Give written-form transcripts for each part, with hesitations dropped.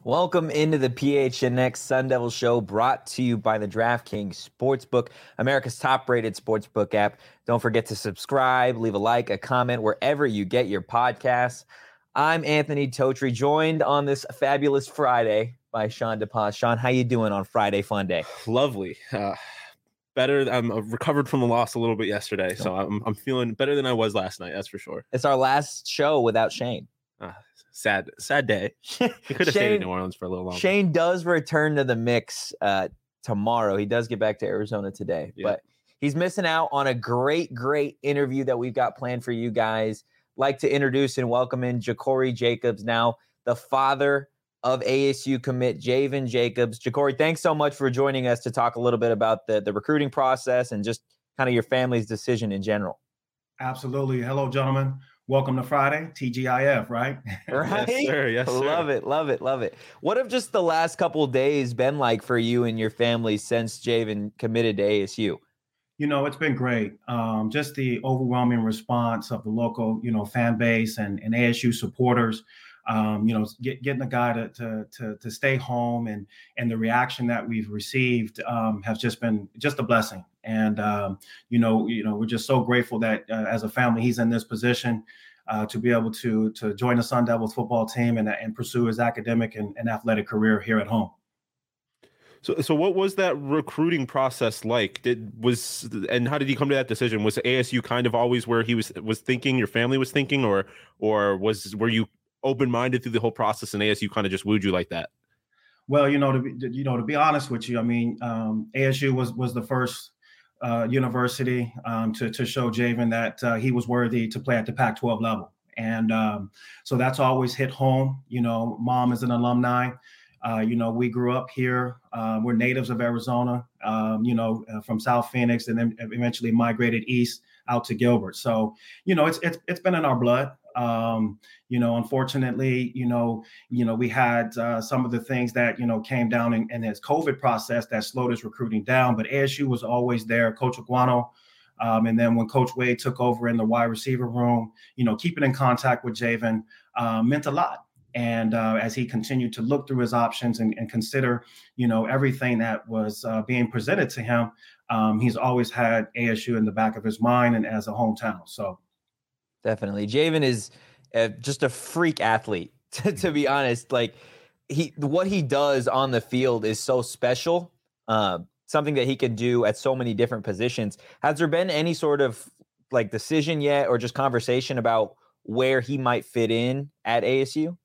Welcome into the PHNX Sun Devil Show, brought to you by the DraftKings Sportsbook, America's top-rated sportsbook app. Don't forget to subscribe, leave a like, a comment, wherever you get your podcasts. I'm Anthony Totri, joined on this fabulous Friday by Sean DePaz. Sean, how you doing on Friday Fun Day? Lovely. Better. I'm recovered from the loss a little bit yesterday, so I'm feeling better than I was last night. That's for sure. It's our last show without Shane. Sad day. He could have stayed in New Orleans for a little longer. Shane does return to the mix tomorrow. He does get back to Arizona today, but he's missing out on a great interview that we've got planned for you guys. Like to introduce and welcome in Ja'Cory Jacobs, now the father of ASU commit Javen Jacobs. Ja'Cory, thanks so much for joining us to talk a little bit about the recruiting process and just kind of your family's decision in general. Absolutely. Hello, gentlemen. Welcome to Friday, TGIF, right? Right? Yes, sir. Yes, sir. Love it. What have just the last couple of days been like for you and your family since Javen committed to ASU? You know, it's been great. Just the overwhelming response of the local, fan base and ASU supporters. Getting the guy to stay home and the reaction that we've received has just been just a blessing. And we're just so grateful that as a family he's in this position to be able to join the Sun Devils football team and pursue his academic and athletic career here at home. So what was that recruiting process like? And how did he come to that decision? Was ASU kind of always where he was thinking, your family was thinking, or were you open-minded through the whole process and ASU kind of just wooed you like that? Well, to be honest with you, I mean, ASU was the first university to show Javen that he was worthy to play at the Pac-12 level. And so that's always hit home. Mom is an alumni. We grew up here. We're natives of Arizona, from South Phoenix, and then eventually migrated east out to Gilbert. So, it's been in our blood. Unfortunately, we had some of the things that, came down in his COVID process that slowed his recruiting down, but ASU was always there. Coach Aguano. And then when Coach Wade took over in the wide receiver room, keeping in contact with Javen meant a lot. And as he continued to look through his options and consider, everything that was being presented to him, he's always had ASU in the back of his mind and as a hometown. So definitely. Javen is just a freak athlete, to be honest. Like what he does on the field is so special, something that he can do at so many different positions. Has there been any sort of like decision yet or just conversation about where he might fit in at ASU?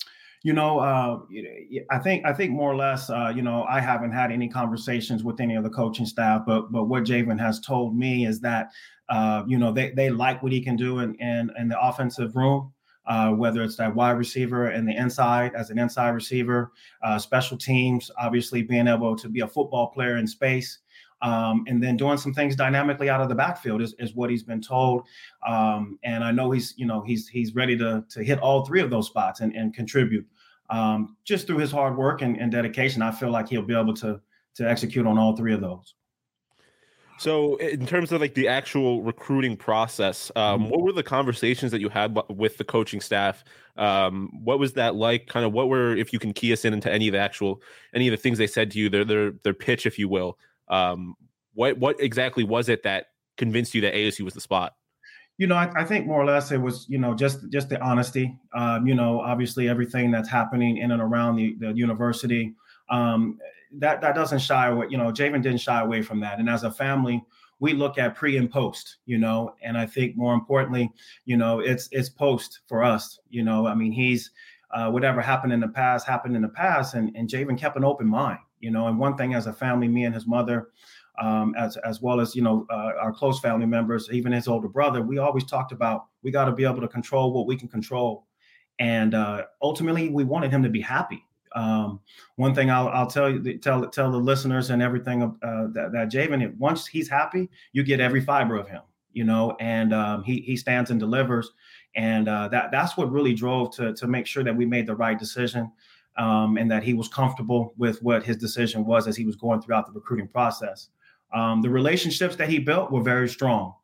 I think more or less, I haven't had any conversations with any of the coaching staff, but what Javen has told me is that, they like what he can do in the offensive room, whether it's that wide receiver and the inside as an inside receiver, special teams, obviously being able to be a football player in space. And then doing some things dynamically out of the backfield is what he's been told. And I know he's ready to hit all three of those spots and contribute. Just through his hard work and dedication, I feel like he'll be able to execute on all three of those. So in terms of like the actual recruiting process, what were the conversations that you had with the coaching staff? What was that like? Kind of if you can key us into any of the things they said to you, their pitch, if you will. What exactly was it that convinced you that ASU was the spot? I think more or less it was, just the honesty. Obviously everything that's happening in and around the university, that doesn't shy away. Javen didn't shy away from that. And as a family, we look at pre and post, and I think more importantly, it's post for us. He's whatever happened in the past. And Javen kept an open mind. And one thing as a family, me and his mother, as well as, our close family members, even his older brother, we always talked about, we got to be able to control what we can control. And ultimately, we wanted him to be happy. One thing I'll tell the listeners and everything that Javen, once he's happy, you get every fiber of him, and he stands and delivers. And that's what really drove to make sure that we made the right decision. And that he was comfortable with what his decision was as he was going throughout the recruiting process. The relationships that he built were very strong.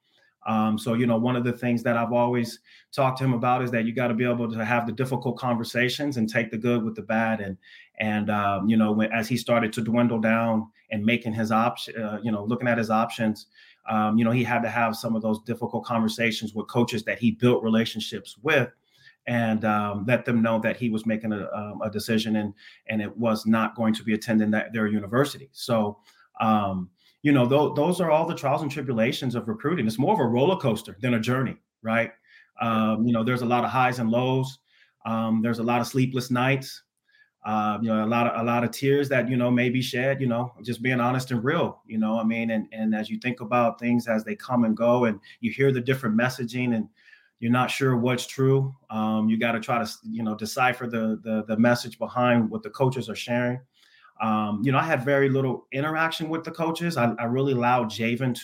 So, one of the things that I've always talked to him about is that you got to be able to have the difficult conversations and take the good with the bad. And as he started to dwindle down and making his option, looking at his options, he had to have some of those difficult conversations with coaches that he built relationships with, and let them know that he was making a decision and it was not going to be attending their university. So, those are all the trials and tribulations of recruiting. It's more of a roller coaster than a journey, right? There's a lot of highs and lows. There's a lot of sleepless nights. A lot of tears that, may be shed, just being honest and real, and as you think about things as they come and go and you hear the different messaging and you're not sure what's true, you got to try to, decipher the message behind what the coaches are sharing. I had very little interaction with the coaches. I really allowed Javen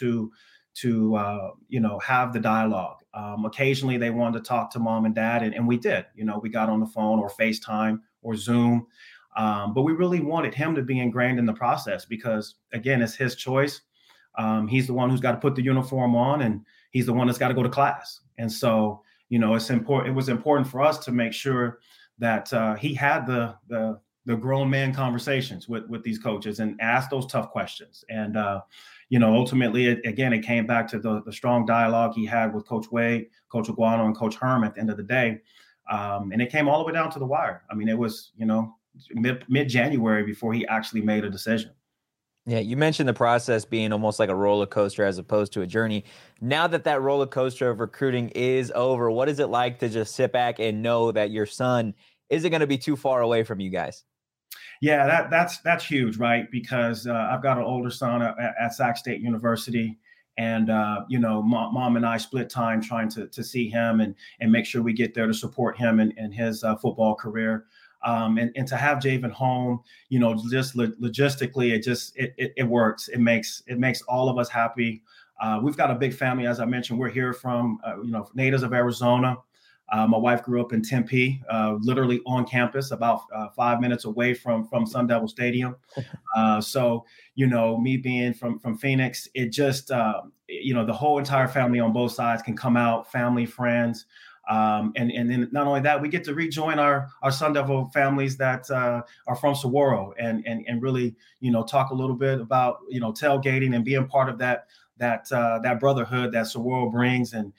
to have the dialogue. Occasionally they wanted to talk to mom and dad, and we did. We got on the phone or FaceTime or Zoom, but we really wanted him to be ingrained in the process because, again, it's his choice. He's the one who's got to put the uniform on, and he's the one that's got to go to class. And so, it's important. It was important for us to make sure that he had the grown man conversations with these coaches and ask those tough questions. And, ultimately, it came back to the strong dialogue he had with Coach Wade, Coach Aguano, and Coach Herm at the end of the day. And it came all the way down to the wire. I mean, it was, mid-January before he actually made a decision. Yeah, you mentioned the process being almost like a roller coaster as opposed to a journey. Now that roller coaster of recruiting is over, what is it like to just sit back and know that your son isn't going to be too far away from you guys? Yeah, that's huge, right? Because I've got an older son at Sac State University, and mom and I split time trying to see him and make sure we get there to support him in his football career. And to have Javen home, just logistically, it works. It makes all of us happy. We've got a big family, as I mentioned. We're here from natives of Arizona. My wife grew up in Tempe, literally on campus, about 5 minutes away from Sun Devil Stadium. So, me being from Phoenix, it just, the whole entire family on both sides can come out, family, friends. And then not only that, we get to rejoin our Sun Devil families that are from Saguaro and really, talk a little bit about, tailgating and being part of that brotherhood that Saguaro brings and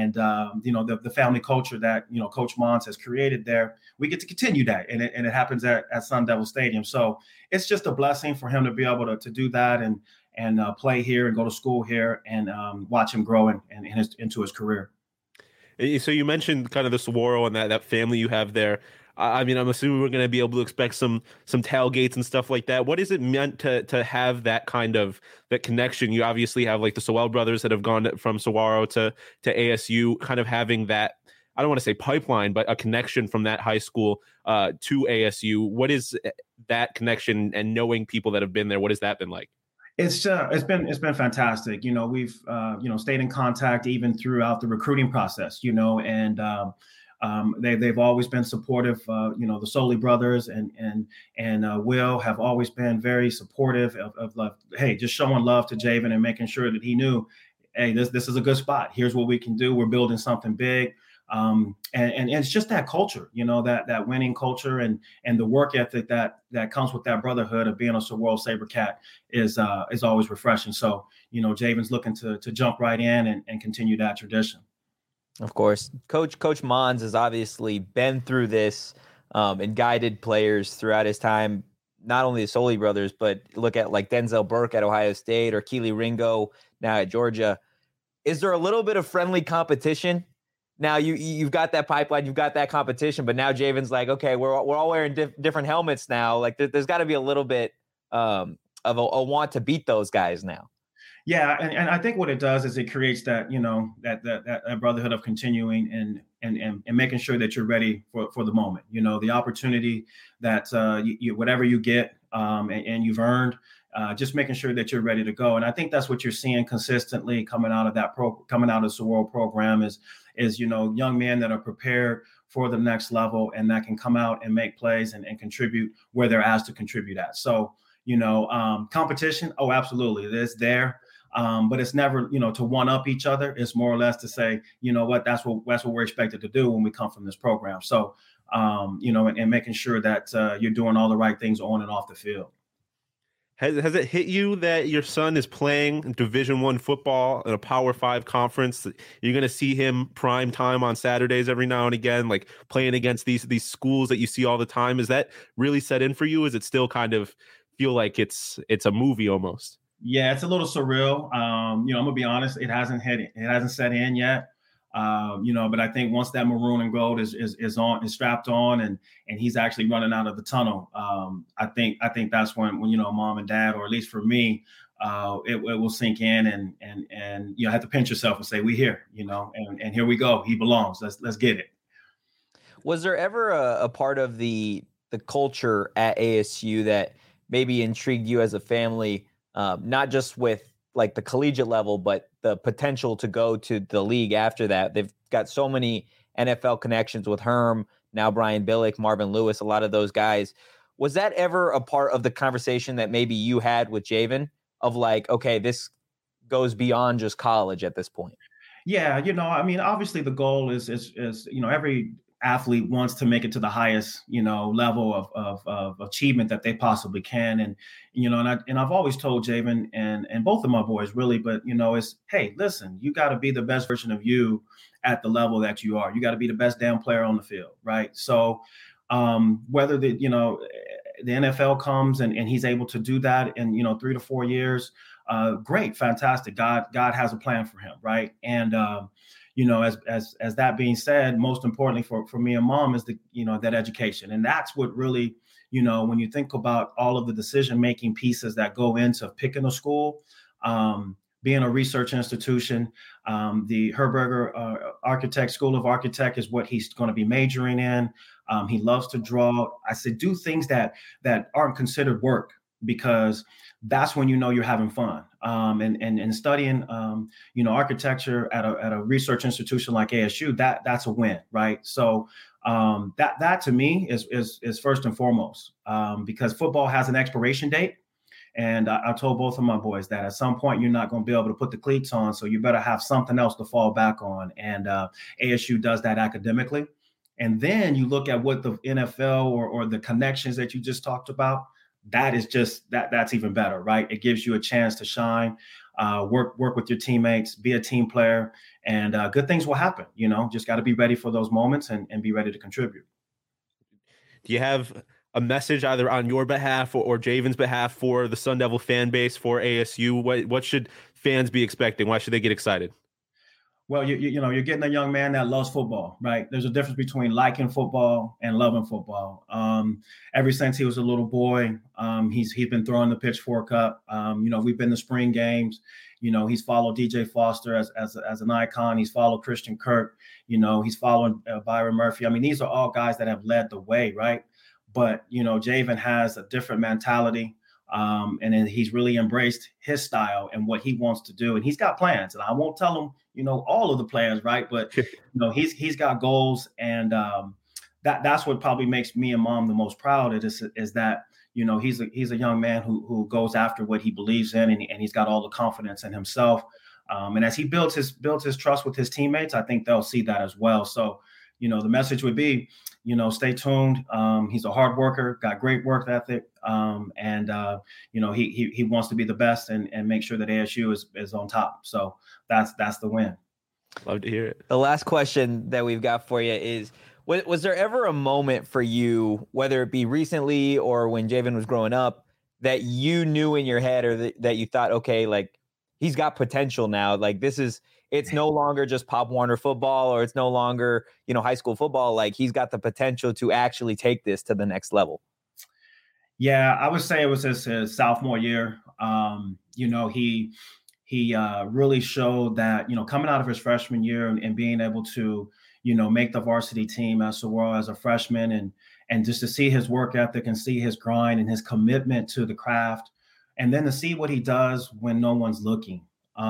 the family culture that, Coach Mons has created there. We get to continue that. And it happens at Sun Devil Stadium. So it's just a blessing for him to be able to do that and play here and go to school here and watch him grow into his career. So you mentioned kind of the Saguaro and that family you have there. I mean, I'm assuming we're going to be able to expect some tailgates and stuff like that. What is it meant to have that kind of that connection? You obviously have like the Sewell brothers that have gone from Saguaro to ASU, kind of having that, I don't want to say pipeline, but a connection from that high school to ASU. What is that connection and knowing people that have been there? What has that been like? It's been fantastic. We've stayed in contact even throughout the recruiting process. And they've always been supportive. The Soley brothers and Will have always been very supportive of love. Hey, just showing love to Javen and making sure that he knew, hey, this is a good spot. Here's what we can do. We're building something big. And it's just that culture, that winning culture and the work ethic that comes with that brotherhood of being a Saguaro SaberCat is always refreshing. So, Javen's looking to jump right in and continue that tradition. Of course, Coach Mons has obviously been through this and guided players throughout his time, not only the Soley brothers, but look at like Denzel Burke at Ohio State or Keely Ringo now at Georgia. Is there a little bit of friendly competition? Now you've got that pipeline, you've got that competition, but now Javen's like, okay, we're all wearing different helmets now. Like there's got to be a little bit of a want to beat those guys now. Yeah, and I think what it does is it creates that that brotherhood of continuing and making sure that you're ready for the moment. The opportunity that you whatever you get and you've earned. Just making sure that you're ready to go. And I think that's what you're seeing consistently coming out of the Saguaro program is young men that are prepared for the next level and that can come out and make plays and contribute where they're asked to contribute at. So, competition. Oh, absolutely. It's there. But it's never, to one up each other. It's more or less to say, you know what, that's what we're expected to do when we come from this program. So, and making sure that you're doing all the right things on and off the field. Has it hit you that your son is playing Division I football in a Power 5 conference? You're going to see him prime time on Saturdays every now and again, like playing against these schools that you see all the time. Is that really set in for you? Is it still kind of feel like it's a movie almost? Yeah, it's a little surreal. I'm gonna be honest; it hasn't set in yet. But I think once that maroon and gold is strapped on and he's actually running out of the tunnel, I think that's when mom and dad, or at least for me, it will sink in and you have to pinch yourself and say, we here, and here we go. He belongs. Let's get it. Was there ever a part of the culture at ASU that maybe intrigued you as a family, not just with like the collegiate level, but the potential to go to the league after that? They've got so many NFL connections with Herm, now Brian Billick, Marvin Lewis, a lot of those guys. Was that ever a part of the conversation that maybe you had with Javen of like, okay, this goes beyond just college at this point? Yeah, obviously the goal is every athlete wants to make it to the highest, level of achievement that they possibly can. And I've always told Javen and both of my boys really, but it's, hey, listen, you got to be the best version of you at the level that you are. You got to be the best damn player on the field. Right. So whether the NFL comes and he's able to do that in, 3 to 4 years, great, fantastic. God has a plan for him. Right. And, as that being said, most importantly for me and mom is that education. And that's what really, when you think about all of the decision-making pieces that go into picking a school, being a research institution, the Herberger Architect School of Architect is what he's going to be majoring in. He loves to draw. I said, do things that aren't considered work, because that's when you're having fun. And studying, architecture at a research institution like ASU, that's a win, right? So that to me is first and foremost, because football has an expiration date. And I told both of my boys that at some point you're not going to be able to put the cleats on, so you better have something else to fall back on. And ASU does that academically. And then you look at what the NFL or the connections that you just talked about. That is just that's even better, right? It gives you a chance to shine, work with your teammates, be a team player, and good things will happen. Just got to be ready for those moments and be ready to contribute. Do you have a message either on your behalf or Javen's behalf for the Sun Devil fan base, for ASU? What should fans be expecting? Why should they get excited? Well, you're getting a young man that loves football, right? There's a difference between liking football and loving football. Ever since he was a little boy, he's been throwing the pitchfork up. We've been to spring games. He's followed DJ Foster as an icon. He's followed Christian Kirk. He's following Byron Murphy. I mean, these are all guys that have led the way, right? But Javen has a different mentality. And then he's really embraced his style and what he wants to do. And he's got plans. And I won't tell him, all of the plans, right? But, he's got goals. And that's what probably makes me and mom the most proud is that, he's a young man who goes after what he believes in, and he's got all the confidence in himself. And as he builds his trust with his teammates, I think they'll see that as well. So, the message would be, stay tuned. He's a hard worker, got great work ethic. And he wants to be the best and make sure that ASU is on top. So that's the win. Love to hear it. The last question that we've got for you is, was there ever a moment for you, whether it be recently or when Javen was growing up, that you knew in your head or that you thought, okay, like he's got potential now. Like it's no longer just Pop Warner football, or it's no longer, high school football. Like he's got the potential to actually take this to the next level. Yeah, I would say it was his sophomore year. He really showed that, coming out of his freshman year and being able to, make the varsity team as well as a freshman, and just to see his work ethic and see his grind and his commitment to the craft, and then to see what he does when no one's looking.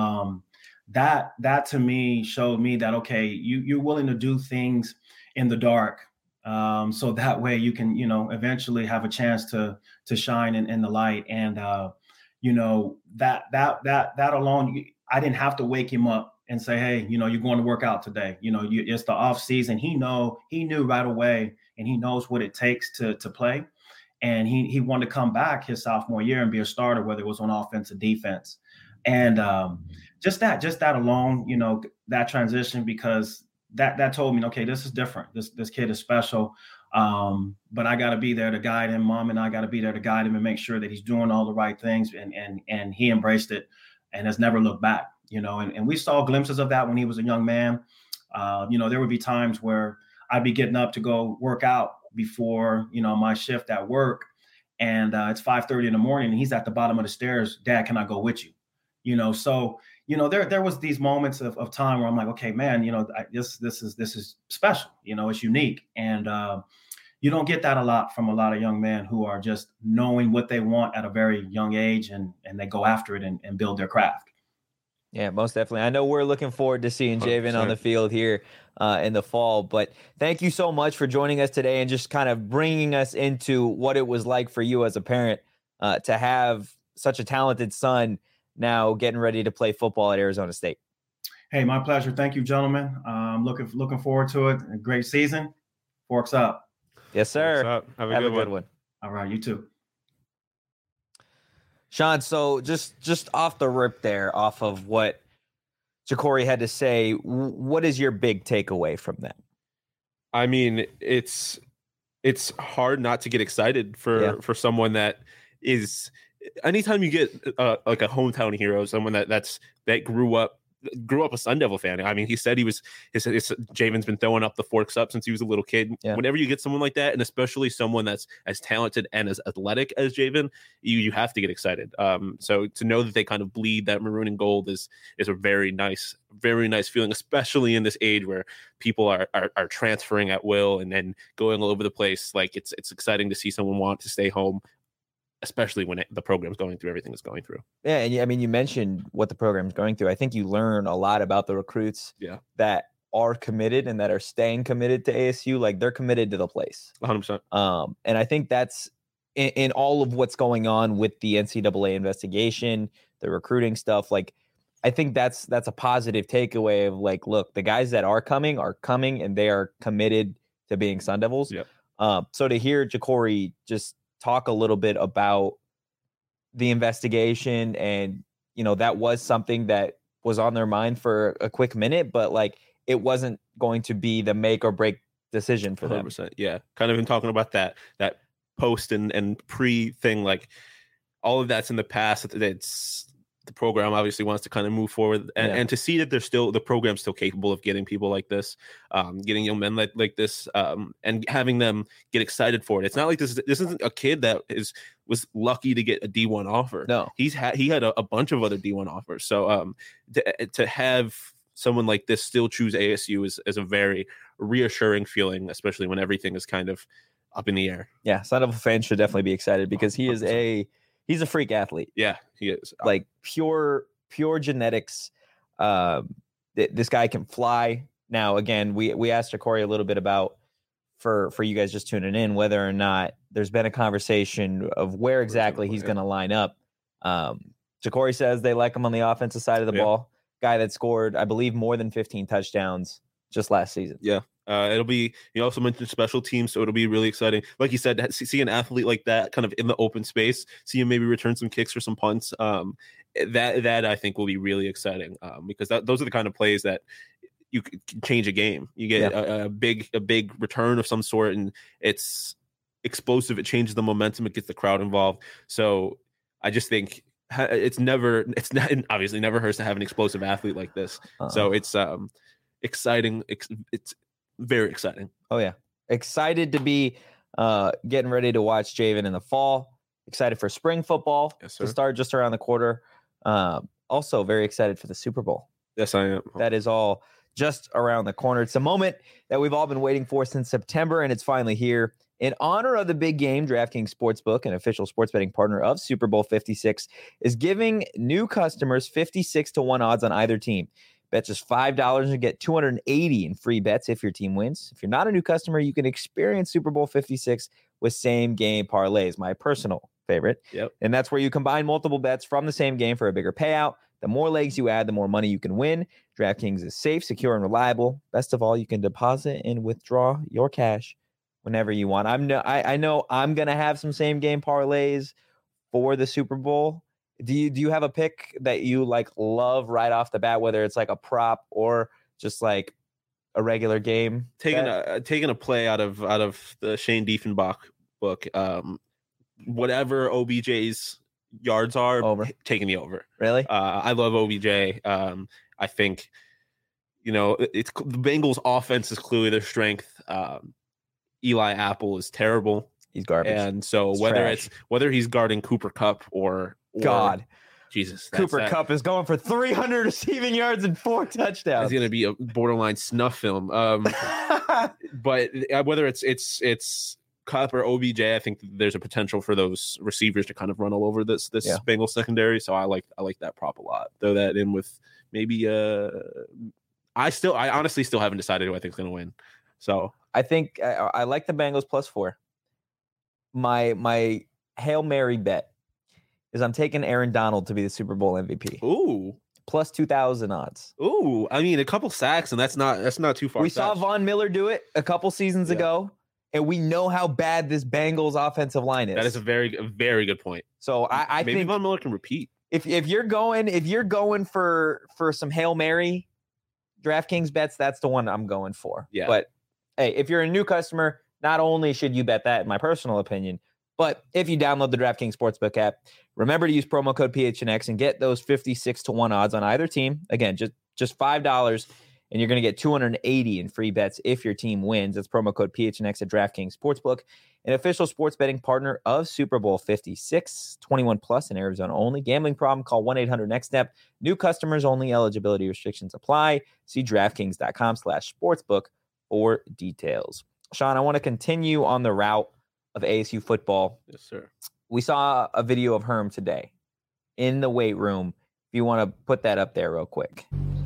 That to me showed me that, okay, you're willing to do things in the dark. So that way you can, eventually have a chance to shine in the light. And, you know, that alone, I didn't have to wake him up and say, hey, you know, you're going to work out today. You know, it's the off season. He knew right away, and he knows what it takes to play. And he wanted to come back his sophomore year and be a starter, whether it was on offense or defense. And just that alone, you know, that transition, because that told me, okay, this is different. This kid is special. But I got to be there to guide him. Mom and I got to be there to guide him and make sure that he's doing all the right things. And he embraced it and has never looked back, you know, and we saw glimpses of that when he was a young man. You know, there would be times where I'd be getting up to go work out before, you know, my shift at work. And it's 5:30 in the morning and he's at the bottom of the stairs. Dad, can I go with you? You know, so, you know, there was these moments of time where I'm like, okay, man, you know, this is special, you know, it's unique. And you don't get that a lot from a lot of young men who are just knowing what they want at a very young age, and they go after it and build their craft. Yeah, most definitely. I know we're looking forward to seeing Javen on the field here in the fall, but thank you so much for joining us today and just kind of bringing us into what it was like for you as a parent to have such a talented son now getting ready to play football at Arizona State. Hey, my pleasure. Thank you, gentlemen. I'm looking forward to it. A great season. Forks up. Yes, sir. Have a good one. All right, you too. Sean, so just off the rip there, off of what Jacory had to say, what is your big takeaway from that? I mean, it's hard not to get excited for someone that is. Anytime you get like a hometown hero, someone that grew up a Sun Devil fan. I mean, he said Javen's been throwing up the forks up since he was a little kid. Yeah. Whenever you get someone like that, and especially someone that's as talented and as athletic as Javen, you have to get excited. So to know that they kind of bleed that maroon and gold is a very nice feeling, especially in this age where people are transferring at will and then going all over the place. Like it's exciting to see someone want to stay home, especially when the program's going through everything it's going through. Yeah, and I mean, you mentioned what the program's going through. I think you learn a lot about the recruits that are committed and that are staying committed to ASU. Like they're committed to the place. 100%. And I think that's in all of what's going on with the NCAA investigation, the recruiting stuff. Like, I think that's a positive takeaway of like, look, the guys that are coming and they are committed to being Sun Devils. Yep. So to hear Jacory just talk a little bit about the investigation, and you know that was something that was on their mind for a quick minute, but like it wasn't going to be the make or break decision for 100%, them. Yeah, kind of been talking about that post and pre thing, like all of that's in the past. It's the program obviously wants to kind of move forward and to see that the program's still capable of getting people like this, getting young men like this, and having them get excited for it. It's not like this isn't a kid that was lucky to get a D1 offer. No, he had a bunch of other D1 offers. So to have someone like this still choose ASU is a very reassuring feeling, especially when everything is kind of up in the air. Yeah, Sun Devil fans should definitely be excited because he is he's a freak athlete. Yeah, he is. Like pure genetics. This guy can fly. Now, again, we asked Jacory a little bit about, for you guys just tuning in, whether or not there's been a conversation of where exactly he's going to line up. Jacory says they like him on the offensive side of the ball. Guy that scored, I believe, more than 15 touchdowns just last season. Yeah. It'll be, you also mentioned special teams, so it'll be really exciting. Like you said, see an athlete like that kind of in the open space, see him maybe return some kicks or some punts. That I think will be really exciting, because those are the kind of plays that you can change a game. You get a big return of some sort, and it's explosive. It changes the momentum. It gets the crowd involved. So I just think it's obviously never hurts to have an explosive athlete like this. So it's exciting. It's very exciting. Oh yeah, excited to be getting ready to watch Javen in the fall. Excited for spring football to start just around the quarter. Also very excited for the Super Bowl. Yes, I am. That is all just around the corner. It's a moment that we've all been waiting for since September, and it's finally here. In honor of the big game, DraftKings Sportsbook, an official sports betting partner of Super Bowl 56, is giving new customers 56-1 odds on either team. Bet just $5 and get $280 in free bets if your team wins. If you're not a new customer, you can experience Super Bowl 56 with same game parlays, my personal favorite. Yep. And that's where you combine multiple bets from the same game for a bigger payout. The more legs you add, the more money you can win. DraftKings is safe, secure, and reliable. Best of all, you can deposit and withdraw your cash whenever you want. I know I'm gonna have some same game parlays for the Super Bowl. Do you have a pick that you like love right off the bat, whether it's like a prop or just like a regular game? Taking a play out of the Shane Diefenbach book, whatever OBJ's yards are, over. Taking the over. Really? I love OBJ. I think it's the Bengals offense is clearly their strength. Eli Apple is terrible. He's garbage. And so It's whether he's guarding Cooper Kupp or God, Jesus, Cooper Kupp is going for 300 receiving yards and 4 touchdowns. It's going to be a borderline snuff film. But whether it's Kupp or OBJ, I think there's a potential for those receivers to kind of run all over this Bengals secondary. So I like that prop a lot. Throw that in with maybe I honestly still haven't decided who I think is going to win. So I think I like the Bengals +4. My Hail Mary bet is I'm taking Aaron Donald to be the Super Bowl MVP. Ooh. Plus 2,000 odds. Ooh, I mean a couple sacks and that's not too far. We saw Von Miller do it a couple seasons ago, and we know how bad this Bengals offensive line is. That is a very good point. So I maybe think Von Miller can repeat. If you're going for some Hail Mary DraftKings bets, that's the one I'm going for. Yeah. But hey, if you're a new customer, not only should you bet that, in my personal opinion, but if you download the DraftKings Sportsbook app, remember to use promo code PHNX and get those 56-1 odds on either team. Again, just $5, and you're going to get $280 in free bets if your team wins. That's promo code PHNX at DraftKings Sportsbook, an official sports betting partner of Super Bowl 56, 21 plus in Arizona only. Gambling problem? Call 1-800-NEXT-STEP. New customers only. Eligibility restrictions apply. See DraftKings.com/sportsbook for details. Sean, I want to continue on the route of ASU football. Yes, sir. We saw a video of Herm today in the weight room. If you want to put that up there real quick.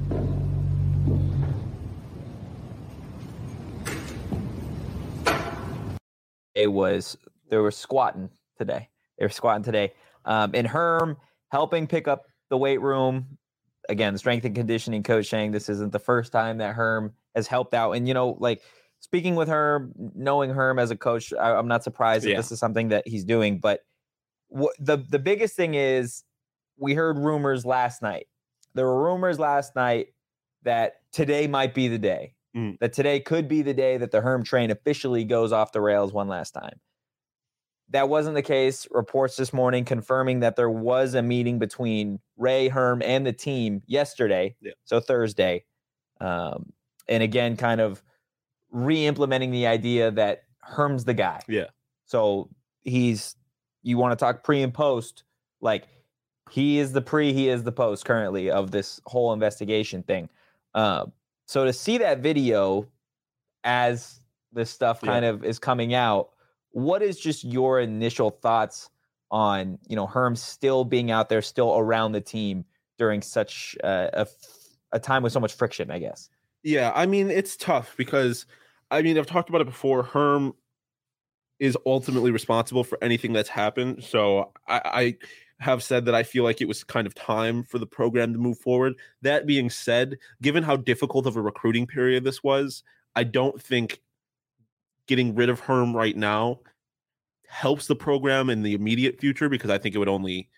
They were squatting today. And Herm helping pick up the weight room. Again, strength and conditioning coach saying this isn't the first time that Herm has helped out. And, speaking with Herm, knowing Herm as a coach, I'm not surprised that this is something that he's doing. But the biggest thing is we heard rumors last night. There were rumors last night that today might be the day. That today could be the day that the Herm train officially goes off the rails one last time. That wasn't the case. Reports this morning confirming that there was a meeting between Ray, Herm, and the team yesterday, so Thursday. And again, kind of re-implementing the idea that Herm's the guy. Yeah. So you want to talk pre and post, like he is the pre, he is the post currently of this whole investigation thing. So to see that video as this stuff kind of is coming out, what is just your initial thoughts on, Herm still being out there, still around the team during such a time with so much friction, I guess? Yeah, I mean, it's tough because, I've talked about it before. Herm is ultimately responsible for anything that's happened. So I have said that I feel like it was kind of time for the program to move forward. That being said, given how difficult of a recruiting period this was, I don't think getting rid of Herm right now helps the program in the immediate future, because I think it would only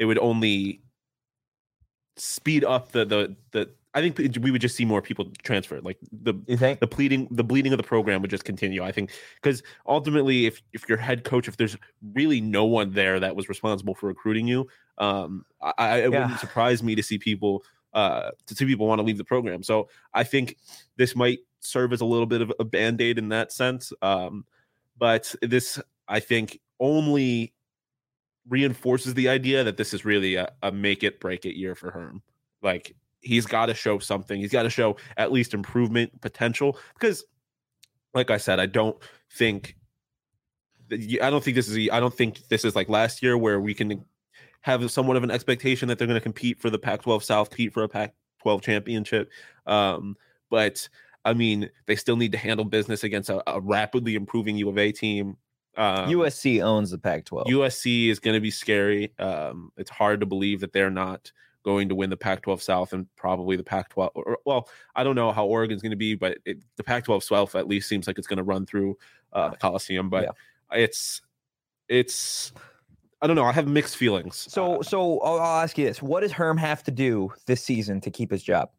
speed up the I think we would just see more people transfer. Like the bleeding of the program would just continue. I think because ultimately, if your head coach, if there's really no one there that was responsible for recruiting you, it wouldn't surprise me to see people want to leave the program. So I think this might serve as a little bit of a Band-Aid in that sense. But this, I think, only reinforces the idea that this is really a make it break it year for Herm. Like, he's got to show something. He's got to show at least improvement potential, because like I said, I don't think this is like last year where we can have somewhat of an expectation that they're going to compete for the Pac-12 South, compete for a Pac-12 championship. But I mean, they still need to handle business against a rapidly improving U of A team. USC owns the Pac-12. USC is going to be scary. It's hard to believe that they're not going to win the Pac-12 South and probably the Pac-12. Well, I don't know how Oregon's going to be, but the Pac-12 South at least seems like it's going to run through the Coliseum. But it's I don't know. I have mixed feelings. So I'll ask you this: what does Herm have to do this season to keep his job?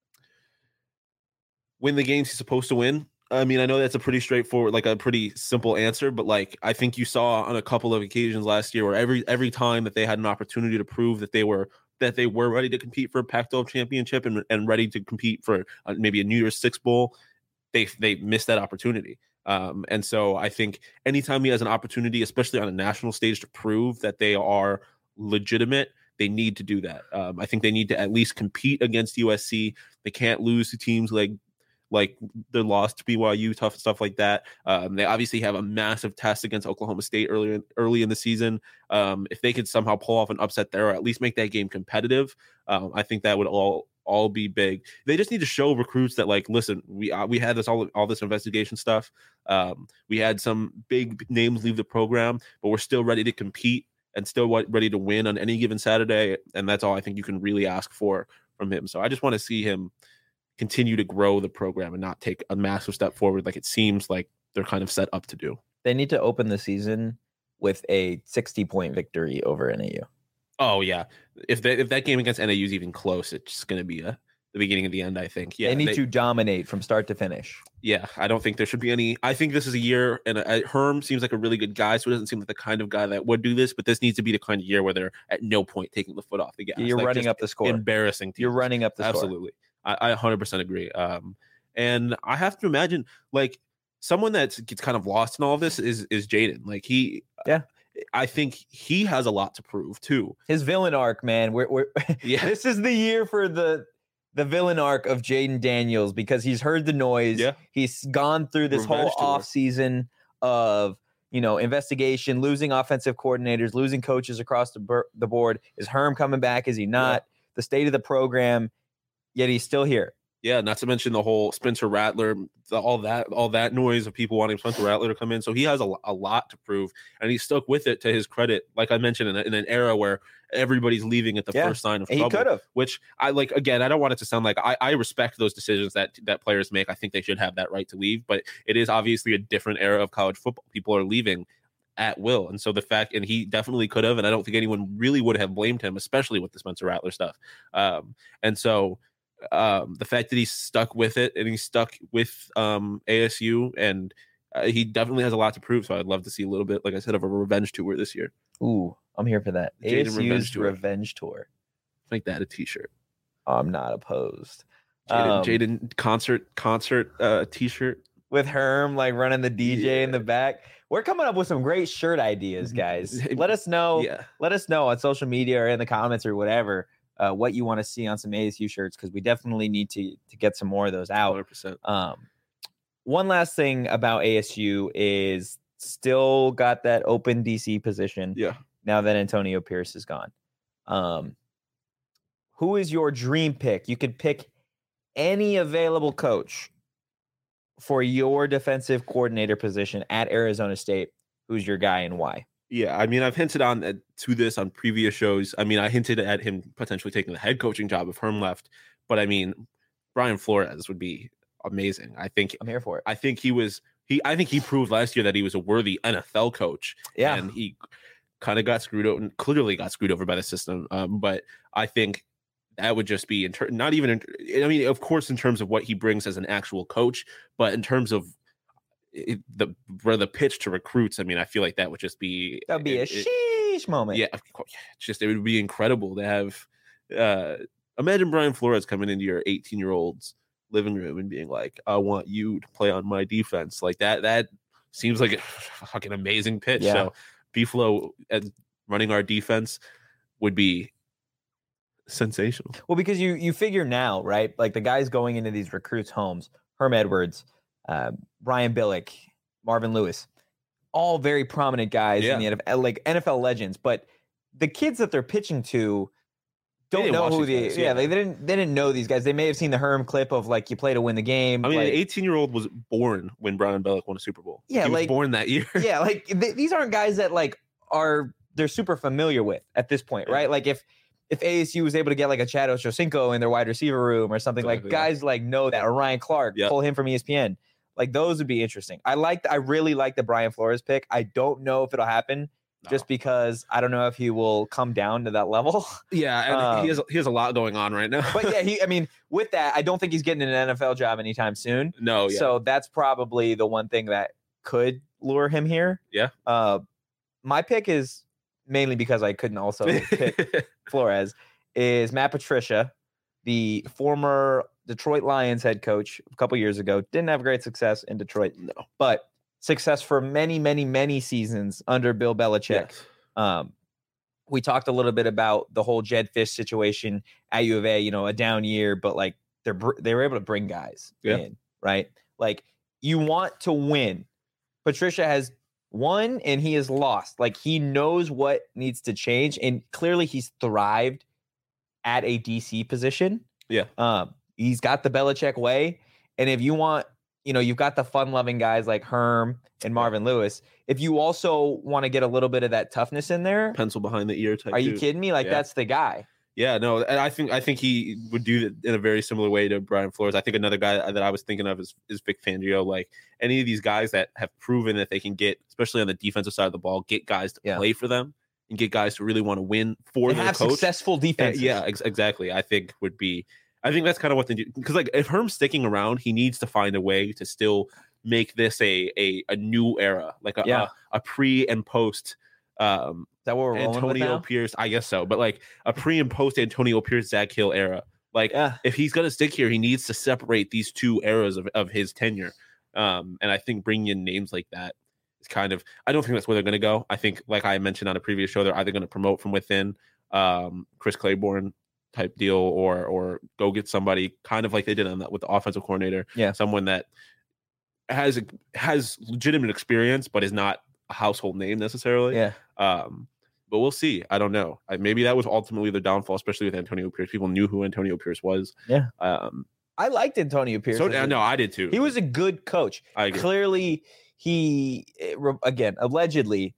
Win the games he's supposed to win. I mean, I know that's a pretty straightforward, like a pretty simple answer, but like I think you saw on a couple of occasions last year where every time that they had an opportunity to prove that they were ready to compete for a Pac-12 championship and ready to compete for maybe a New Year's Six bowl, they missed that opportunity. And so I think anytime he has an opportunity, especially on a national stage, to prove that they are legitimate, they need to do that. I think they need to at least compete against USC. They can't lose to teams like their loss to BYU, tough stuff like that. They obviously have a massive test against Oklahoma State early in the season. If they could somehow pull off an upset there, or at least make that game competitive, I think that would all be big. They just need to show recruits that, like, listen, we had this all this investigation stuff. We had some big names leave the program, but we're still ready to compete and still ready to win on any given Saturday. And that's all I think you can really ask for from him. So I just want to see him continue to grow the program and not take a massive step forward like it seems like they're kind of set up to do. They need to open the season with a 60-point victory over NAU. Oh yeah, if that game against NAU is even close, it's going to be the beginning of the end. I think. Yeah, they need to dominate from start to finish. Yeah, I don't think there should be any. I think this is a year, and Herm seems like a really good guy, so it doesn't seem like the kind of guy that would do this. But this needs to be the kind of year where they're at no point taking the foot off the gas. You're like running up the score. Embarrassing. Teams. You're running up the score. Absolutely. I 100% agree. And I have to imagine, like, someone that gets kind of lost in all of this is Jaden. Like I think he has a lot to prove too. His villain arc, man. We're This is the year for the villain arc of Jaden Daniels, because he's heard the noise. Yeah. He's gone through this whole off season of investigation, losing offensive coordinators, losing coaches across the board. Is Herm coming back? Is he not? Yeah. The state of the program. Yet he's still here. Yeah, not to mention the whole Spencer Rattler, all that noise of people wanting Spencer Rattler to come in. So he has a lot to prove, and he stuck with it to his credit. Like I mentioned, in an era where everybody's leaving at the first sign of trouble. He could have. Which I like. Again, I don't want it to sound like I respect those decisions that players make. I think they should have that right to leave, but it is obviously a different era of college football. People are leaving at will, and so and he definitely could have, and I don't think anyone really would have blamed him, especially with the Spencer Rattler stuff. And so. The fact that he's stuck with it and he's stuck with ASU, and he definitely has a lot to prove. So I'd love to see a little bit, like I said, of a revenge tour this year. Ooh, I'm here for that. ASU's revenge tour. Make that a t-shirt. I'm not opposed. Jaden concert t-shirt with Herm like running the DJ in the back. We're coming up with some great shirt ideas, guys. Let us know. Yeah. Let us know on social media or in the comments or whatever. What you want to see on some ASU shirts, because we definitely need to get some more of those out. 100%. One last thing about ASU is still got that open DC position. Yeah. Now that Antonio Pierce is gone. Who is your dream pick? You could pick any available coach for your defensive coordinator position at Arizona State. Who's your guy and why? Yeah, I mean, I've hinted to this on previous shows. I mean, I hinted at him potentially taking the head coaching job if Herm left. But I mean, Brian Flores would be amazing. I think I'm here for it. I think I think he proved last year that he was a worthy NFL coach. Yeah, and he kind of got screwed over, and clearly got screwed over by the system. But I think that would just be not even. I mean, of course, in terms of what he brings as an actual coach, but in terms of the pitch to recruits, I mean, I feel like that would just be a sheesh moment. Yeah, it would be incredible to have. Imagine Brian Flores coming into your 18-year-old's living room and being like, "I want you to play on my defense." Like that. That seems like a fucking amazing pitch. Yeah. So B-Flow running our defense would be sensational. Well, because you figure now, right? Like the guys going into these recruits' homes, Herm Edwards, Brian Billick, Marvin Lewis, all very prominent guys in the NFL, like NFL legends. But the kids that they're pitching to don't know who they didn't know these guys. They may have seen the Herm clip of like you play to win the game. I mean, an 18-year-old was born when Brown and Bellick won a Super Bowl. Yeah, he was born that year. Yeah, like these aren't guys that like they're super familiar with at this point, right? Like if ASU was able to get like a Chad Ochocinco in their wide receiver room or something, like guys like know that, or Ryan Clark, pull him from ESPN. Like those would be interesting. I really like the Brian Flores pick. I don't know if it'll happen just because I don't know if he will come down to that level. Yeah, and he has a lot going on right now. But yeah, with that, I don't think he's getting an NFL job anytime soon. No, yeah. So that's probably the one thing that could lure him here. Yeah. My pick is mainly because I couldn't also pick Flores, is Matt Patricia, the former Detroit Lions head coach a couple years ago. Didn't have great success in Detroit, but success for many, many, many seasons under Bill Belichick. Yes. We talked a little bit about the whole Jed Fish situation at U of A, a down year, but like they were able to bring guys in, right? Like you want to win. Patricia has won and he has lost. Like he knows what needs to change, and clearly he's thrived at a DC position. Yeah. He's got the Belichick way, and if you want, you've got the fun-loving guys like Herm and Marvin Lewis. If you also want to get a little bit of that toughness in there, pencil behind the ear type. Are you kidding me? Like that's the guy. Yeah, no, and I think he would do it in a very similar way to Brian Flores. I think another guy that I was thinking of is Vic Fangio. Like any of these guys that have proven that they can get, especially on the defensive side of the ball, get guys to play for them and get guys to really want to win for their coach. Successful defense. Exactly. I think that's kind of what they do. Because like if Herm's sticking around, he needs to find a way to still make this a new era, like a pre and post. Is that what we're rolling with now? Pierce, I guess so, but like a pre and post Antonio Pierce, Zach Hill era. Like if he's gonna stick here, he needs to separate these two eras of his tenure. And I think bringing in names like that is kind of, I don't think that's where they're gonna go. I think, like I mentioned on a previous show, they're either gonna promote from within, Chris Claiborne type deal, or go get somebody kind of like they did on that with the offensive coordinator. Yeah, someone that has legitimate experience but is not a household name necessarily. Yeah. But we'll see. I don't know. Maybe that was ultimately the downfall, especially with Antonio Pierce. People knew who Antonio Pierce was. Yeah. I liked Antonio Pierce. No, I did too. He was a good coach. I agree. Clearly, he again allegedly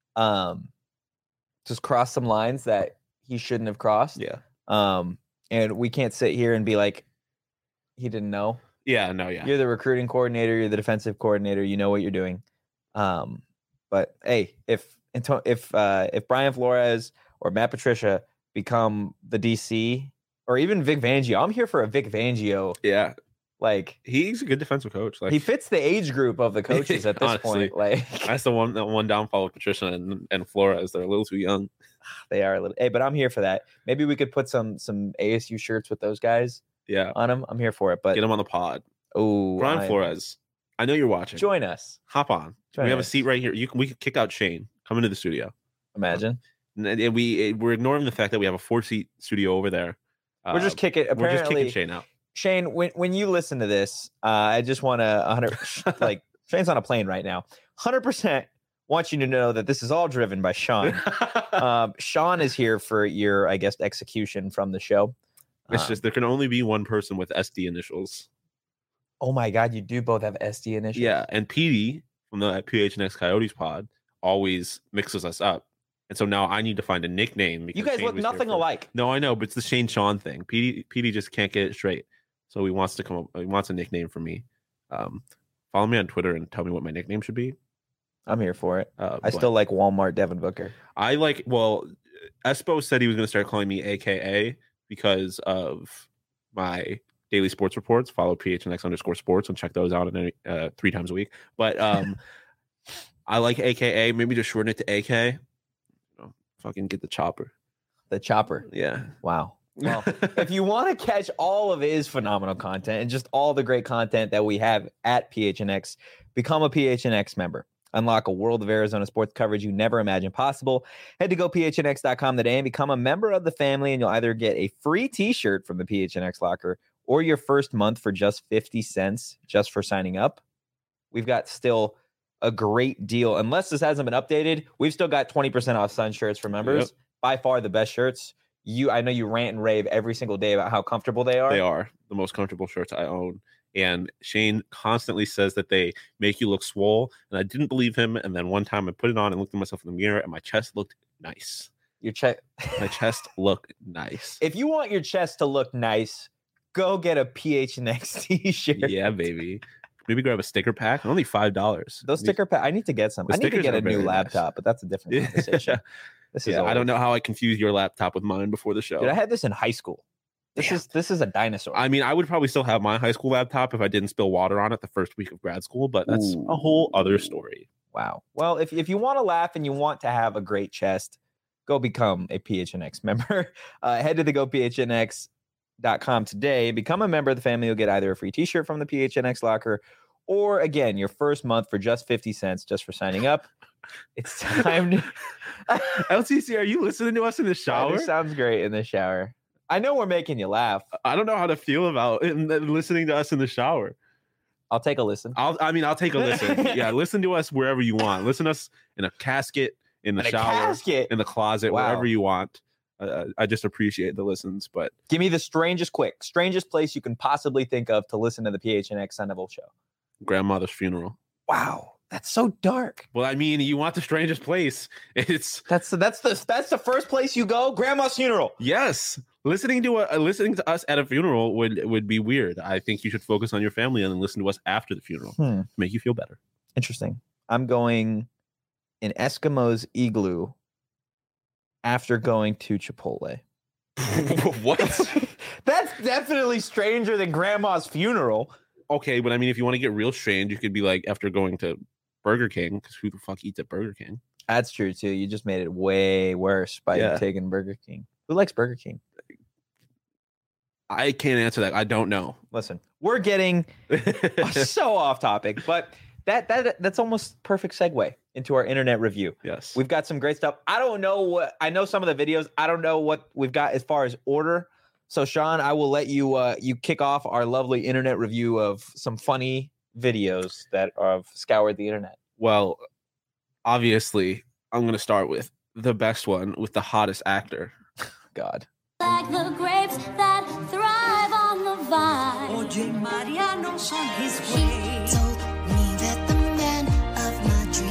just crossed some lines that he shouldn't have crossed. Yeah. And we can't sit here and be like, he didn't know. Yeah. No. Yeah. You're the recruiting coordinator. You're the defensive coordinator. You know what you're doing. But hey, if Brian Flores or Matt Patricia become the DC, or even Vic Fangio, I'm here for a Vic Fangio. Yeah, like he's a good defensive coach. Like he fits the age group of the coaches at this honestly, point. Like that's the one downfall with Patricia and Flores. They're a little too young. They are a little. Hey, but I'm here for that. Maybe we could put some ASU shirts with those guys. Yeah, on them. I'm here for it. But get them on the pod. Oh, Brian Flores. I know you're watching. Join us. Hop on. We have a seat right here. We could kick out Shane. Come into the studio. Imagine. And we're ignoring the fact that we have a 4-seat studio over there. We're just kicking. Apparently, we're just kicking Shane out. Shane, when you listen to this, I just want to like Shane's on a plane right now. 100% want you to know that this is all driven by Sean. Sean is here for your, I guess, execution from the show. It's just there can only be one person with SD initials. Oh my God, you do both have SD initials. Yeah, and PD from the PHNX Coyotes pod always mixes us up. And so now I need to find a nickname. You guys look nothing alike. No, I know, but it's the Shane Sean thing. PD just can't get it straight. So he wants a nickname for me. Follow me on Twitter and tell me what my nickname should be. I'm here for it. I still like Walmart Devin Booker. Espo said he was going to start calling me AKA because of my daily sports reports. Follow PHNX_sports and check those out 3 times a week. But I like AKA. Maybe just shorten it to AK. Fucking get the chopper. The chopper. Yeah. Wow. Well, if you want to catch all of his phenomenal content and just all the great content that we have at PHNX, become a PHNX member. Unlock a world of Arizona sports coverage you never imagined possible. Head to gophnx.com today and become a member of the family, and you'll either get a free t-shirt from the PHNX locker or your first month for just 50 cents just for signing up. We've got still a great deal. Unless this hasn't been updated, we've still got 20% off Sun shirts for members. Yep. By far the best shirts. I know you rant and rave every single day about how comfortable they are. They are the most comfortable shirts I own. And Shane constantly says that they make you look swole. And I didn't believe him. And then one time I put it on and looked at myself in the mirror and my chest looked nice. Your chest. My chest looked nice. If you want your chest to look nice, go get a PHNX t-shirt. Yeah, baby. Maybe grab a sticker pack. Only $5. Those sticker pack. I need to get some. I need to get a new laptop, but that's a different conversation. This is I don't know how I confused your laptop with mine before the show. Dude, I had this in high school. This is a dinosaur. I mean, I would probably still have my high school laptop if I didn't spill water on it the first week of grad school, but that's a whole other story. Wow. Well, if you want to laugh and you want to have a great chest, go become a PHNX member. Head to the GoPHNX.com today. Become a member of the family. You'll get either a free t-shirt from the PHNX locker or, again, your first month for just 50 cents just for signing up. It's time to... LTC, are you listening to us in the shower? It sounds great in the shower. I know we're making you laugh. I don't know how to feel about listening to us in the shower. I'll take a listen. I'll take a listen. Yeah, listen to us wherever you want. Listen to us in a casket, in the shower, in the closet, wherever you want. I just appreciate the listens. But give me the strangest place you can possibly think of to listen to the PHNX Sun Devil show. Grandmother's funeral. Wow. That's so dark. Well, I mean, you want the strangest place. That's the first place you go. Grandma's funeral. Yes, listening to us at a funeral would be weird. I think you should focus on your family and then listen to us after the funeral to make you feel better. Interesting. I'm going in Eskimo's igloo after going to Chipotle. What? That's definitely stranger than Grandma's funeral. Okay, but I mean, if you want to get real strange, you could be like after going to Burger King, because who the fuck eats at Burger King? That's true too. You just made it way worse by taking Burger King. Who likes Burger King? I can't answer that. I don't know. Listen, we're getting so off topic, but that's almost perfect segue into our internet review. Yes, we've got some great stuff. I know some of the videos. I don't know what we've got as far as order. So Sean, I will let you you kick off our lovely internet review of some funny videos that have scoured the internet. Well, obviously, I'm going to start with the best one with the hottest actor. God. Like the grapes that thrive on the vine. Oye, Mariano's on his way. He told me that the man of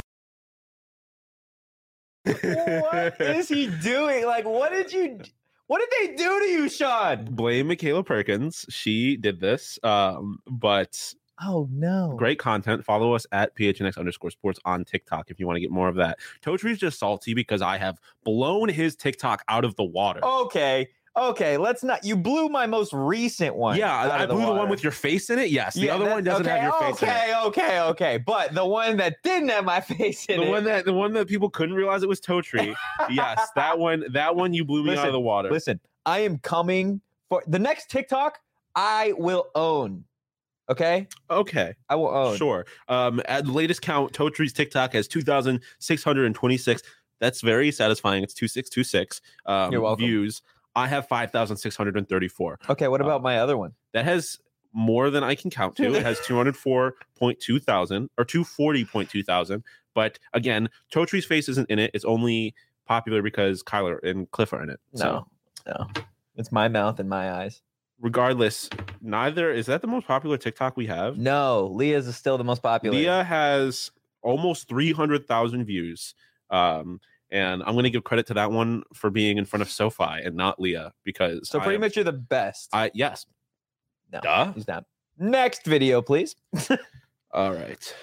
my dreams. What is he doing? Like, what did they do to you, Sean? Blame Michaela Perkins. She did this. But oh no. Great content. Follow us at PHNX_sports on TikTok if you want to get more of that. Totri's just salty because I have blown his TikTok out of the water. Okay, let's not. You blew my most recent one. Yeah, I blew the one with your face in it. Yes, the other one doesn't have your face in it. Okay. But the one that didn't have my face in it. The one that people couldn't realize it was Totri. Yes, that one you blew me out of the water. Listen, I am coming for the next TikTok. I will own. Okay, I will own. Sure. At the latest count, Totri's TikTok has 2,626. That's very satisfying. It's 2626 You're welcome. Views. I have 5,634. Okay, what about my other one? That has more than I can count to. It has 204.2 thousand or 240.2 thousand. But again, Totri's face isn't in it. It's only popular because Kyler and Cliff are in it. No. It's my mouth and my eyes. Regardless, neither is that the most popular TikTok we have. No, Leah's is still the most popular. Leah has almost 300,000 views. And I'm going to give credit to that one for being in front of SoFi and not Leah because pretty much you're the best. Yes. No, duh. He's not. Next video, please. All right.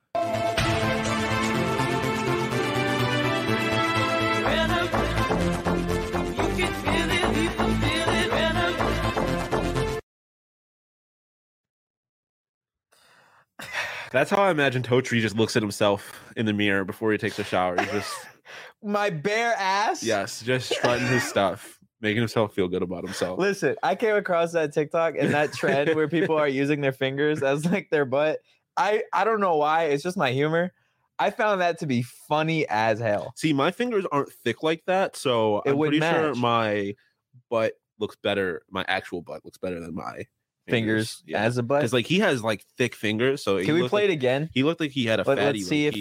That's how I imagine Totri just looks at himself in the mirror before he takes a shower. He's just my bare ass. Yes, just strutting his stuff, making himself feel good about himself. Listen, I came across that TikTok and that trend where people are using their fingers as like their butt. I don't know why. It's just my humor. I found that to be funny as hell. See, my fingers aren't thick like that, so I'm pretty sure my butt looks better. My actual butt looks better than my fingers as a butt. Because like he has like thick fingers. So can we play it again? He looked like he had a fatty. Let's see if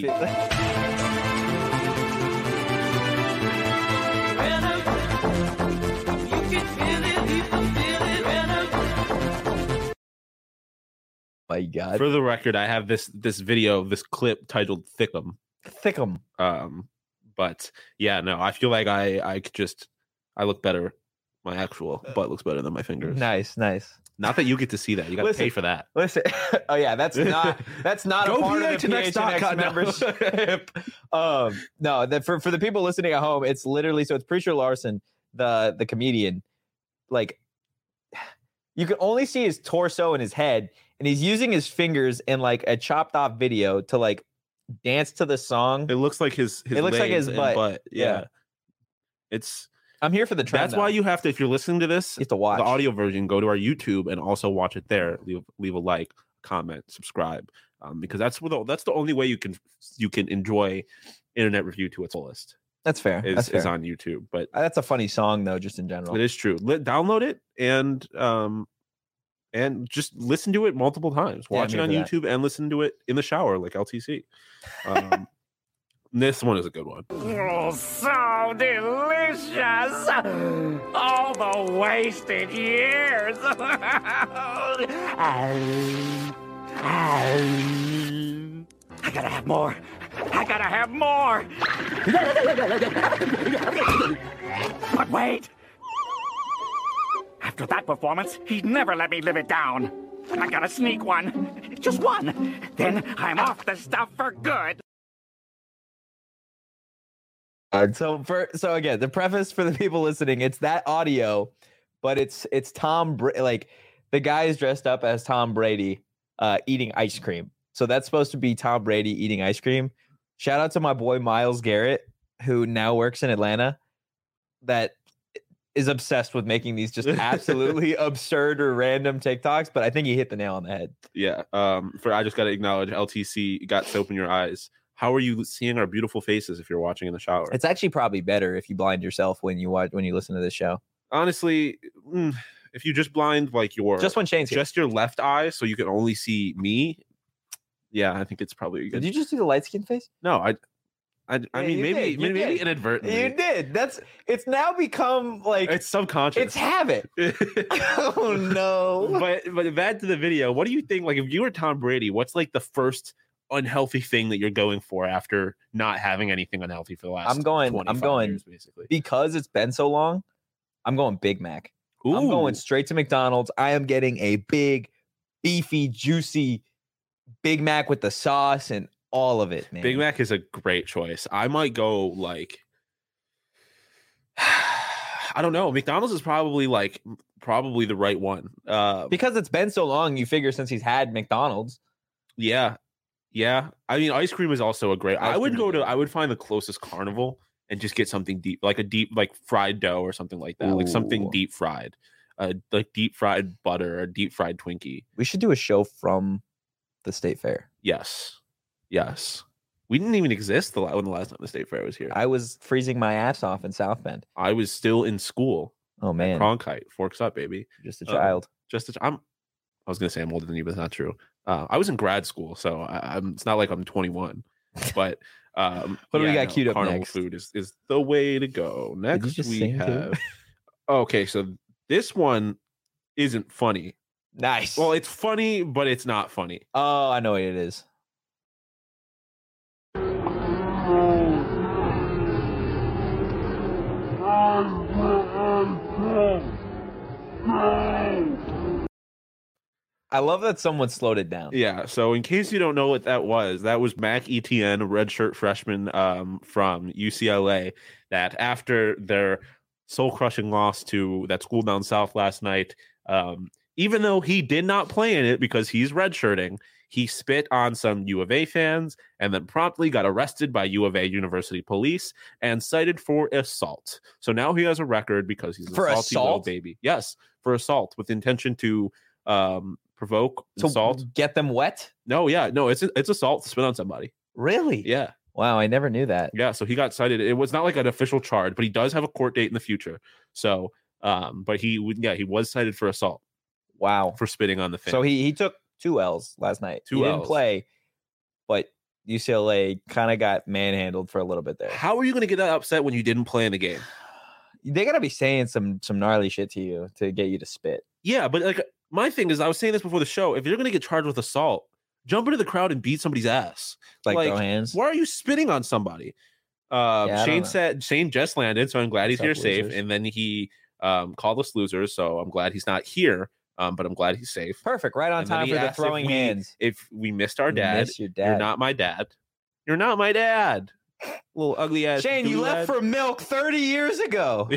My God. For the record, I have this video, this clip titled "Thickum." Thickum. But yeah, no, I feel like I look better. My actual butt looks better than my fingers. Nice. Not that you get to see that. You got to pay for that. Listen. Oh yeah, that's not a part of the PHNX membership. No, for the people listening at home, it's literally it's Preacher Larson, the comedian. Like, you can only see his torso and his head, and he's using his fingers in like a chopped off video to like dance to the song. It looks like his it looks like his butt. Yeah. I'm here for the trend. That's why you have to, if you're listening to this, you have to watch the audio version, go to our YouTube and also watch it there. Leave a like, comment, subscribe, because that's the only way you can enjoy internet review to its fullest. That's fair. Is on YouTube. But that's a funny song though, just in general. It is true. Download it and just listen to it multiple times. Watch it on YouTube and listen to it in the shower like LTC. This one is a good one. Oh, so delicious! All the wasted years! I gotta have more! But wait! After that performance, he'd never let me live it down. I gotta sneak one. Just one. Then I'm off the stuff for good. So again, the preface for the people listening, it's that audio, but it's Tom like the guy is dressed up as Tom Brady eating ice cream. So that's supposed to be Tom Brady eating ice cream. Shout out to my boy Myles Garrett, who now works in Atlanta, that is obsessed with making these just absolutely absurd or random TikToks, but I think he hit the nail on the head. Yeah. I just got to acknowledge LTC got soap in your eyes. How are you seeing our beautiful faces if you're watching in the shower? It's actually probably better if you blind yourself when you listen to this show. Honestly, if you just blind like just when Shane's just your left eye, so you can only see me. Yeah, I think it's probably good. Did you just do the light skin face? No, I mean maybe inadvertently. You did. It's now become like it's subconscious. It's habit. Oh no. But back to the video. What do you think? Like if you were Tom Brady, what's like the first unhealthy thing that you're going for after not having anything unhealthy for the last? I'm going years, basically, because it's been so long. I'm going Big Mac. Ooh. I'm going straight to McDonald's. I am getting a big, beefy, juicy Big Mac with the sauce and all of it, man. Big Mac is a great choice. I might go like I don't know. McDonald's is probably the right one. Because it's been so long, you figure since he's had McDonald's. Yeah. I mean, ice cream is also a great. I would find the closest carnival and just get something deep, like fried dough or something like that. Ooh. Like something deep fried, like deep fried butter or deep fried Twinkie. We should do a show from the State Fair. Yes. We didn't even exist when the last time the State Fair was here. I was freezing my ass off in South Bend. I was still in school. Oh man, Cronkite, forks up, baby. Just a child. I was gonna say I'm older than you, but that's not true. I was in grad school, so it's not like I'm 21. But what do we got queued up carnival next? Food is the way to go. Next we have. Okay, so this one isn't funny. Nice. Well, it's funny, but it's not funny. Oh, I know what it is. I love that someone slowed it down. Yeah. So in case you don't know what that was Mac Etienne, a redshirt freshman from UCLA, that after their soul-crushing loss to that school down south last night, even though he did not play in it because he's redshirting, he spit on some U of A fans and then promptly got arrested by U of A University police and cited for assault. So now he has a record because he's a salty little baby. Yes, for assault with intention to provoke, assault, get them wet. No, it's assault to spit on somebody. Really? Yeah. Wow, I never knew that. Yeah, so he got cited. It was not like an official charge, but he does have a court date in the future. So, but he was cited for assault. Wow, for spitting on the fan. So he took 2 L's last night. He didn't play, but UCLA kind of got manhandled for a little bit there. How are you going to get that upset when you didn't play in the game? They got to be saying some gnarly shit to you to get you to spit. Yeah, but like my thing is, I was saying this before the show. If you're going to get charged with assault, jump into the crowd and beat somebody's ass. Like throw hands. Why are you spitting on somebody? Shane just landed, so I'm glad he's here safe. And then he called us losers, so I'm glad he's not here. But I'm glad he's safe. Perfect. Right on time for the throwing hands. If we missed our dad, your dad, you're not my dad. You're not my dad. Little ugly ass. Shane, you left for milk 30 years ago.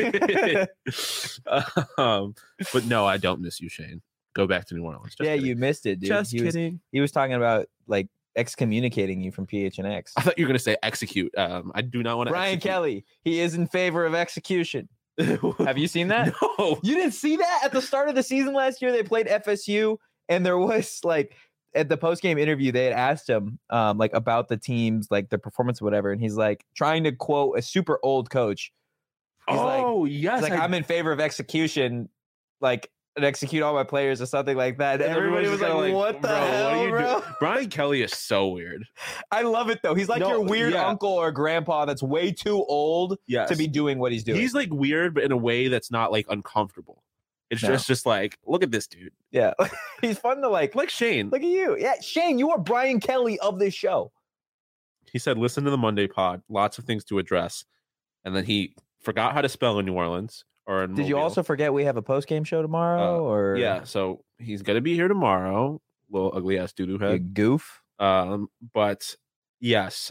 But no, I don't miss you, Shane. Go back to New Orleans. Just kidding. You missed it, dude. Just kidding. He was talking about like excommunicating you from PHNX. I thought you were going to say execute. I do not want to. Brian Kelly, he is in favor of execution. Have you seen that? No. You didn't see that at the start of the season last year? They played FSU, and there was like at the post-game interview, they had asked him like about the teams, like their performance or whatever, and he's like trying to quote a super old coach. He's yes. He's like, I'm in favor of execution, like and execute all my players or something like that. And everybody was like, what the hell, bro? Brian Kelly is so weird. I love it, though. He's like your weird uncle or grandpa that's way too old to be doing what he's doing. He's like weird, but in a way that's not like uncomfortable. It's just like, look at this dude. Yeah. He's fun to like Shane. Look at you. Yeah, Shane, you are Brian Kelly of this show. He said, listen to the Monday pod. Lots of things to address. And then he forgot how to spell in New Orleans. Or in Did you also forget we have a post-game show tomorrow? Or yeah, so he's gonna be here tomorrow. Little ugly ass doo-doo head. You goof. But yes.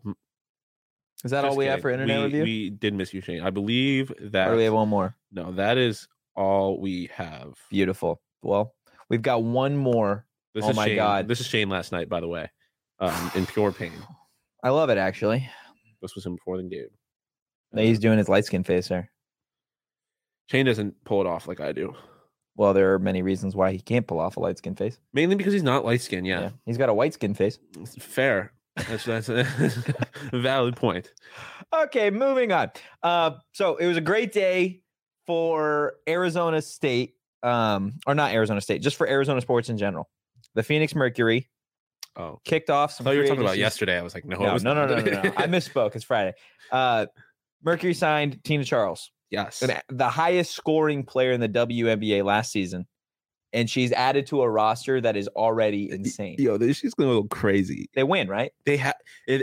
Is that all we have for internet review? We did miss you, Shane. I believe that. Or do we have one more? No, that is all we have. Beautiful. Well, we've got one more. Oh my God. This is Shane last night, by the way. In pure pain. I love it, actually. This was him before the game. He's doing his light skin face there. Shane doesn't pull it off like I do. Well, there are many reasons why he can't pull off a light skin face. Mainly because he's not light skin. Yeah. He's got a white skin face. Fair. That's a valid point. Okay, moving on. So it was a great day for Arizona State, or not Arizona State, just for Arizona sports in general. The Phoenix Mercury kicked off some. I thought you were talking about yesterday. I was like, no. I misspoke. It's Friday. Mercury signed Tina Charles. Yes. The highest scoring player in the WNBA last season. And she's added to a roster that is already insane. Yo, she's going to go crazy. They win, right? They have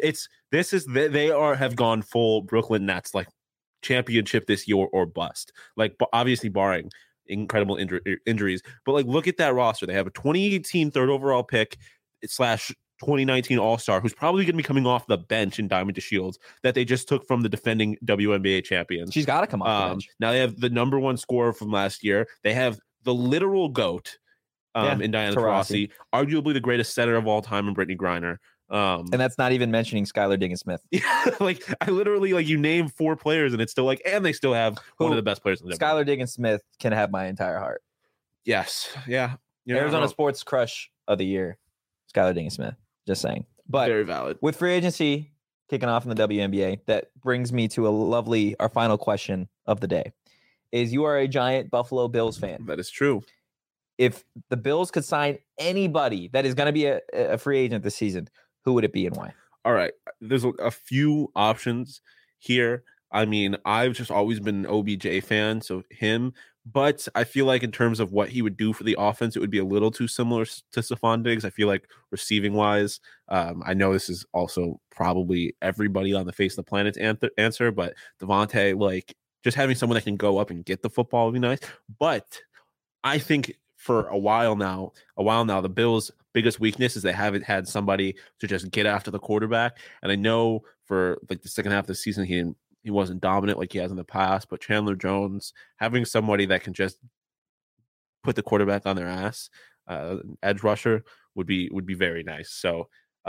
have gone full Brooklyn Nets, like championship this year or bust. Like obviously barring incredible injuries, but like look at that roster. They have a 2018 third overall pick / 2019 All-Star, who's probably going to be coming off the bench in Diamond DeShields that they just took from the defending WNBA champions. She's got to come off the bench. Now they have the number one scorer from last year. They have the literal GOAT in Diana Taurasi, arguably the greatest setter of all time in Brittany Griner. And that's not even mentioning Skylar Diggins-Smith. Yeah, like I literally you name 4 players and it's still and they still have one of the best players in the Skylar Diggins-Smith can have my entire heart. Yes. Yeah. Arizona sports crush of the year, Skylar Diggins-Smith. Just saying. But very valid. With free agency kicking off in the WNBA, that brings me to our final question of the day. Is you are a giant Buffalo Bills fan. That is true. If the Bills could sign anybody that is going to be a free agent this season, who would it be and why? All right. There's a few options here. I mean, I've just always been an OBJ fan, so him. But I feel like in terms of what he would do for the offense, it would be a little too similar to Stephon Diggs. I feel like receiving-wise, I know this is also probably everybody on the face of the planet's answer, but Devontae, just having someone that can go up and get the football would be nice. But I think for a while now, the Bills' biggest weakness is they haven't had somebody to just get after the quarterback. And I know for the second half of the season, he wasn't dominant like he has in the past, but Chandler Jones, having somebody that can just put the quarterback on their ass, edge rusher would be very nice. So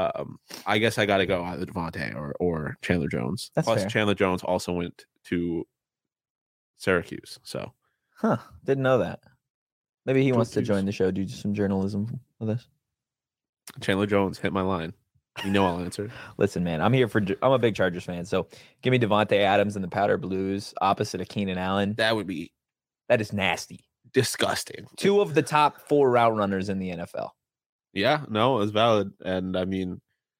I guess I got to go either Devontae or Chandler Jones. That's Plus fair. Chandler Jones also went to Syracuse. So, didn't know that. Maybe he wants to join the show, do some journalism with us. Chandler Jones, hit my line. You know I'll answer. Listen, man, I'm a big Chargers fan, so give me Devontae Adams and the Powder Blues opposite of Keenan Allen. That is nasty. Disgusting. 2 of the top 4 route runners in the NFL. Yeah, no, it's valid. And I mean,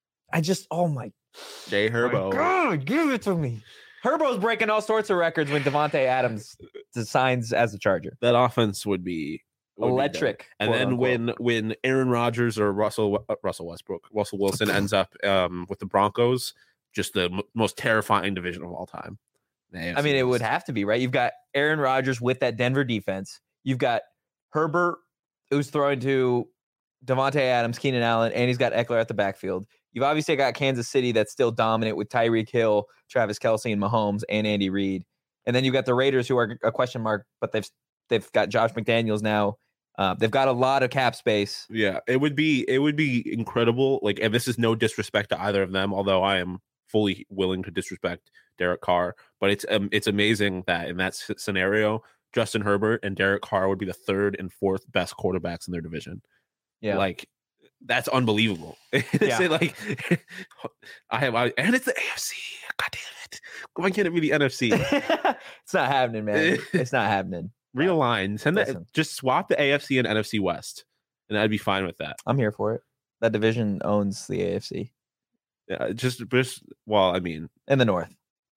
Jay Herbo. God, give it to me. Herbo's breaking all sorts of records when Devontae Adams signs as a Charger. That offense would be Electric. And quote, then unquote. when Aaron Rodgers or Russell Wilson ends up with the Broncos, just the most terrifying division of all time. I mean, it would have to be, right? You've got Aaron Rodgers with that Denver defense. You've got Herbert, who's throwing to Devontae Adams, Keenan Allen, and he's got Eckler at the backfield. You've obviously got Kansas City that's still dominant with Tyreek Hill, Travis Kelce, and Mahomes, and Andy Reid. And then you've got the Raiders, who are a question mark, but they've got Josh McDaniels now. They've got a lot of cap space. Yeah, it would be incredible. Like, and this is no disrespect to either of them, although I am fully willing to disrespect Derek Carr. But it's amazing that in that scenario, Justin Herbert and Derek Carr would be the third and fourth best quarterbacks in their division. Yeah, like that's unbelievable. Yeah. Like and it's the AFC. God damn it! Why can't it be the NFC? It's not happening, man. It's not happening. Realign. Just swap the AFC and NFC West, and I'd be fine with that. I'm here for it. That division owns the AFC. Yeah, I mean, in the North.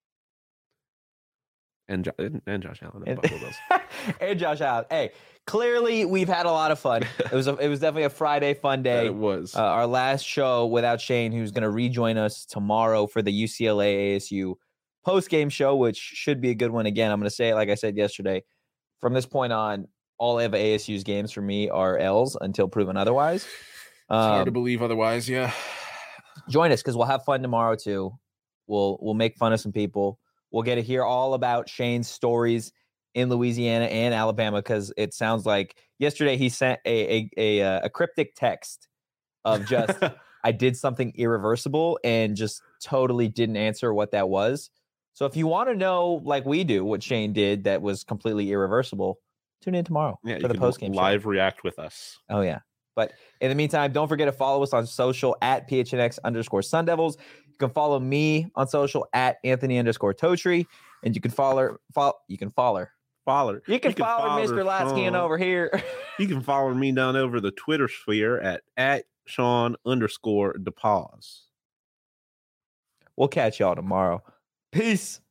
And Josh Allen and Buffalo Bills. And Josh Allen. Hey, clearly we've had a lot of fun. It was definitely a Friday fun day. It was our last show without Shane, who's going to rejoin us tomorrow for the UCLA ASU post-game show, which should be a good one. Again, I'm going to say it like I said yesterday. From this point on, all of ASU's games for me are L's until proven otherwise. It's hard to believe otherwise. Yeah. Join us because we'll have fun tomorrow too. We'll make fun of some people. We'll get to hear all about Shane's stories in Louisiana and Alabama because it sounds like yesterday he sent a cryptic text of just I did something irreversible and just totally didn't answer what that was. So if you want to know, like we do, what Shane did that was completely irreversible, tune in tomorrow for the post-game live show. React with us. Oh, yeah. But in the meantime, don't forget to follow us on social at PHNX_Sun Devils. You can follow me on social at Anthony_Totri. And you can follow Mr. Latskian over here. You can follow me down over the Twitter sphere at Sean_DePause. We'll catch y'all tomorrow. Peace.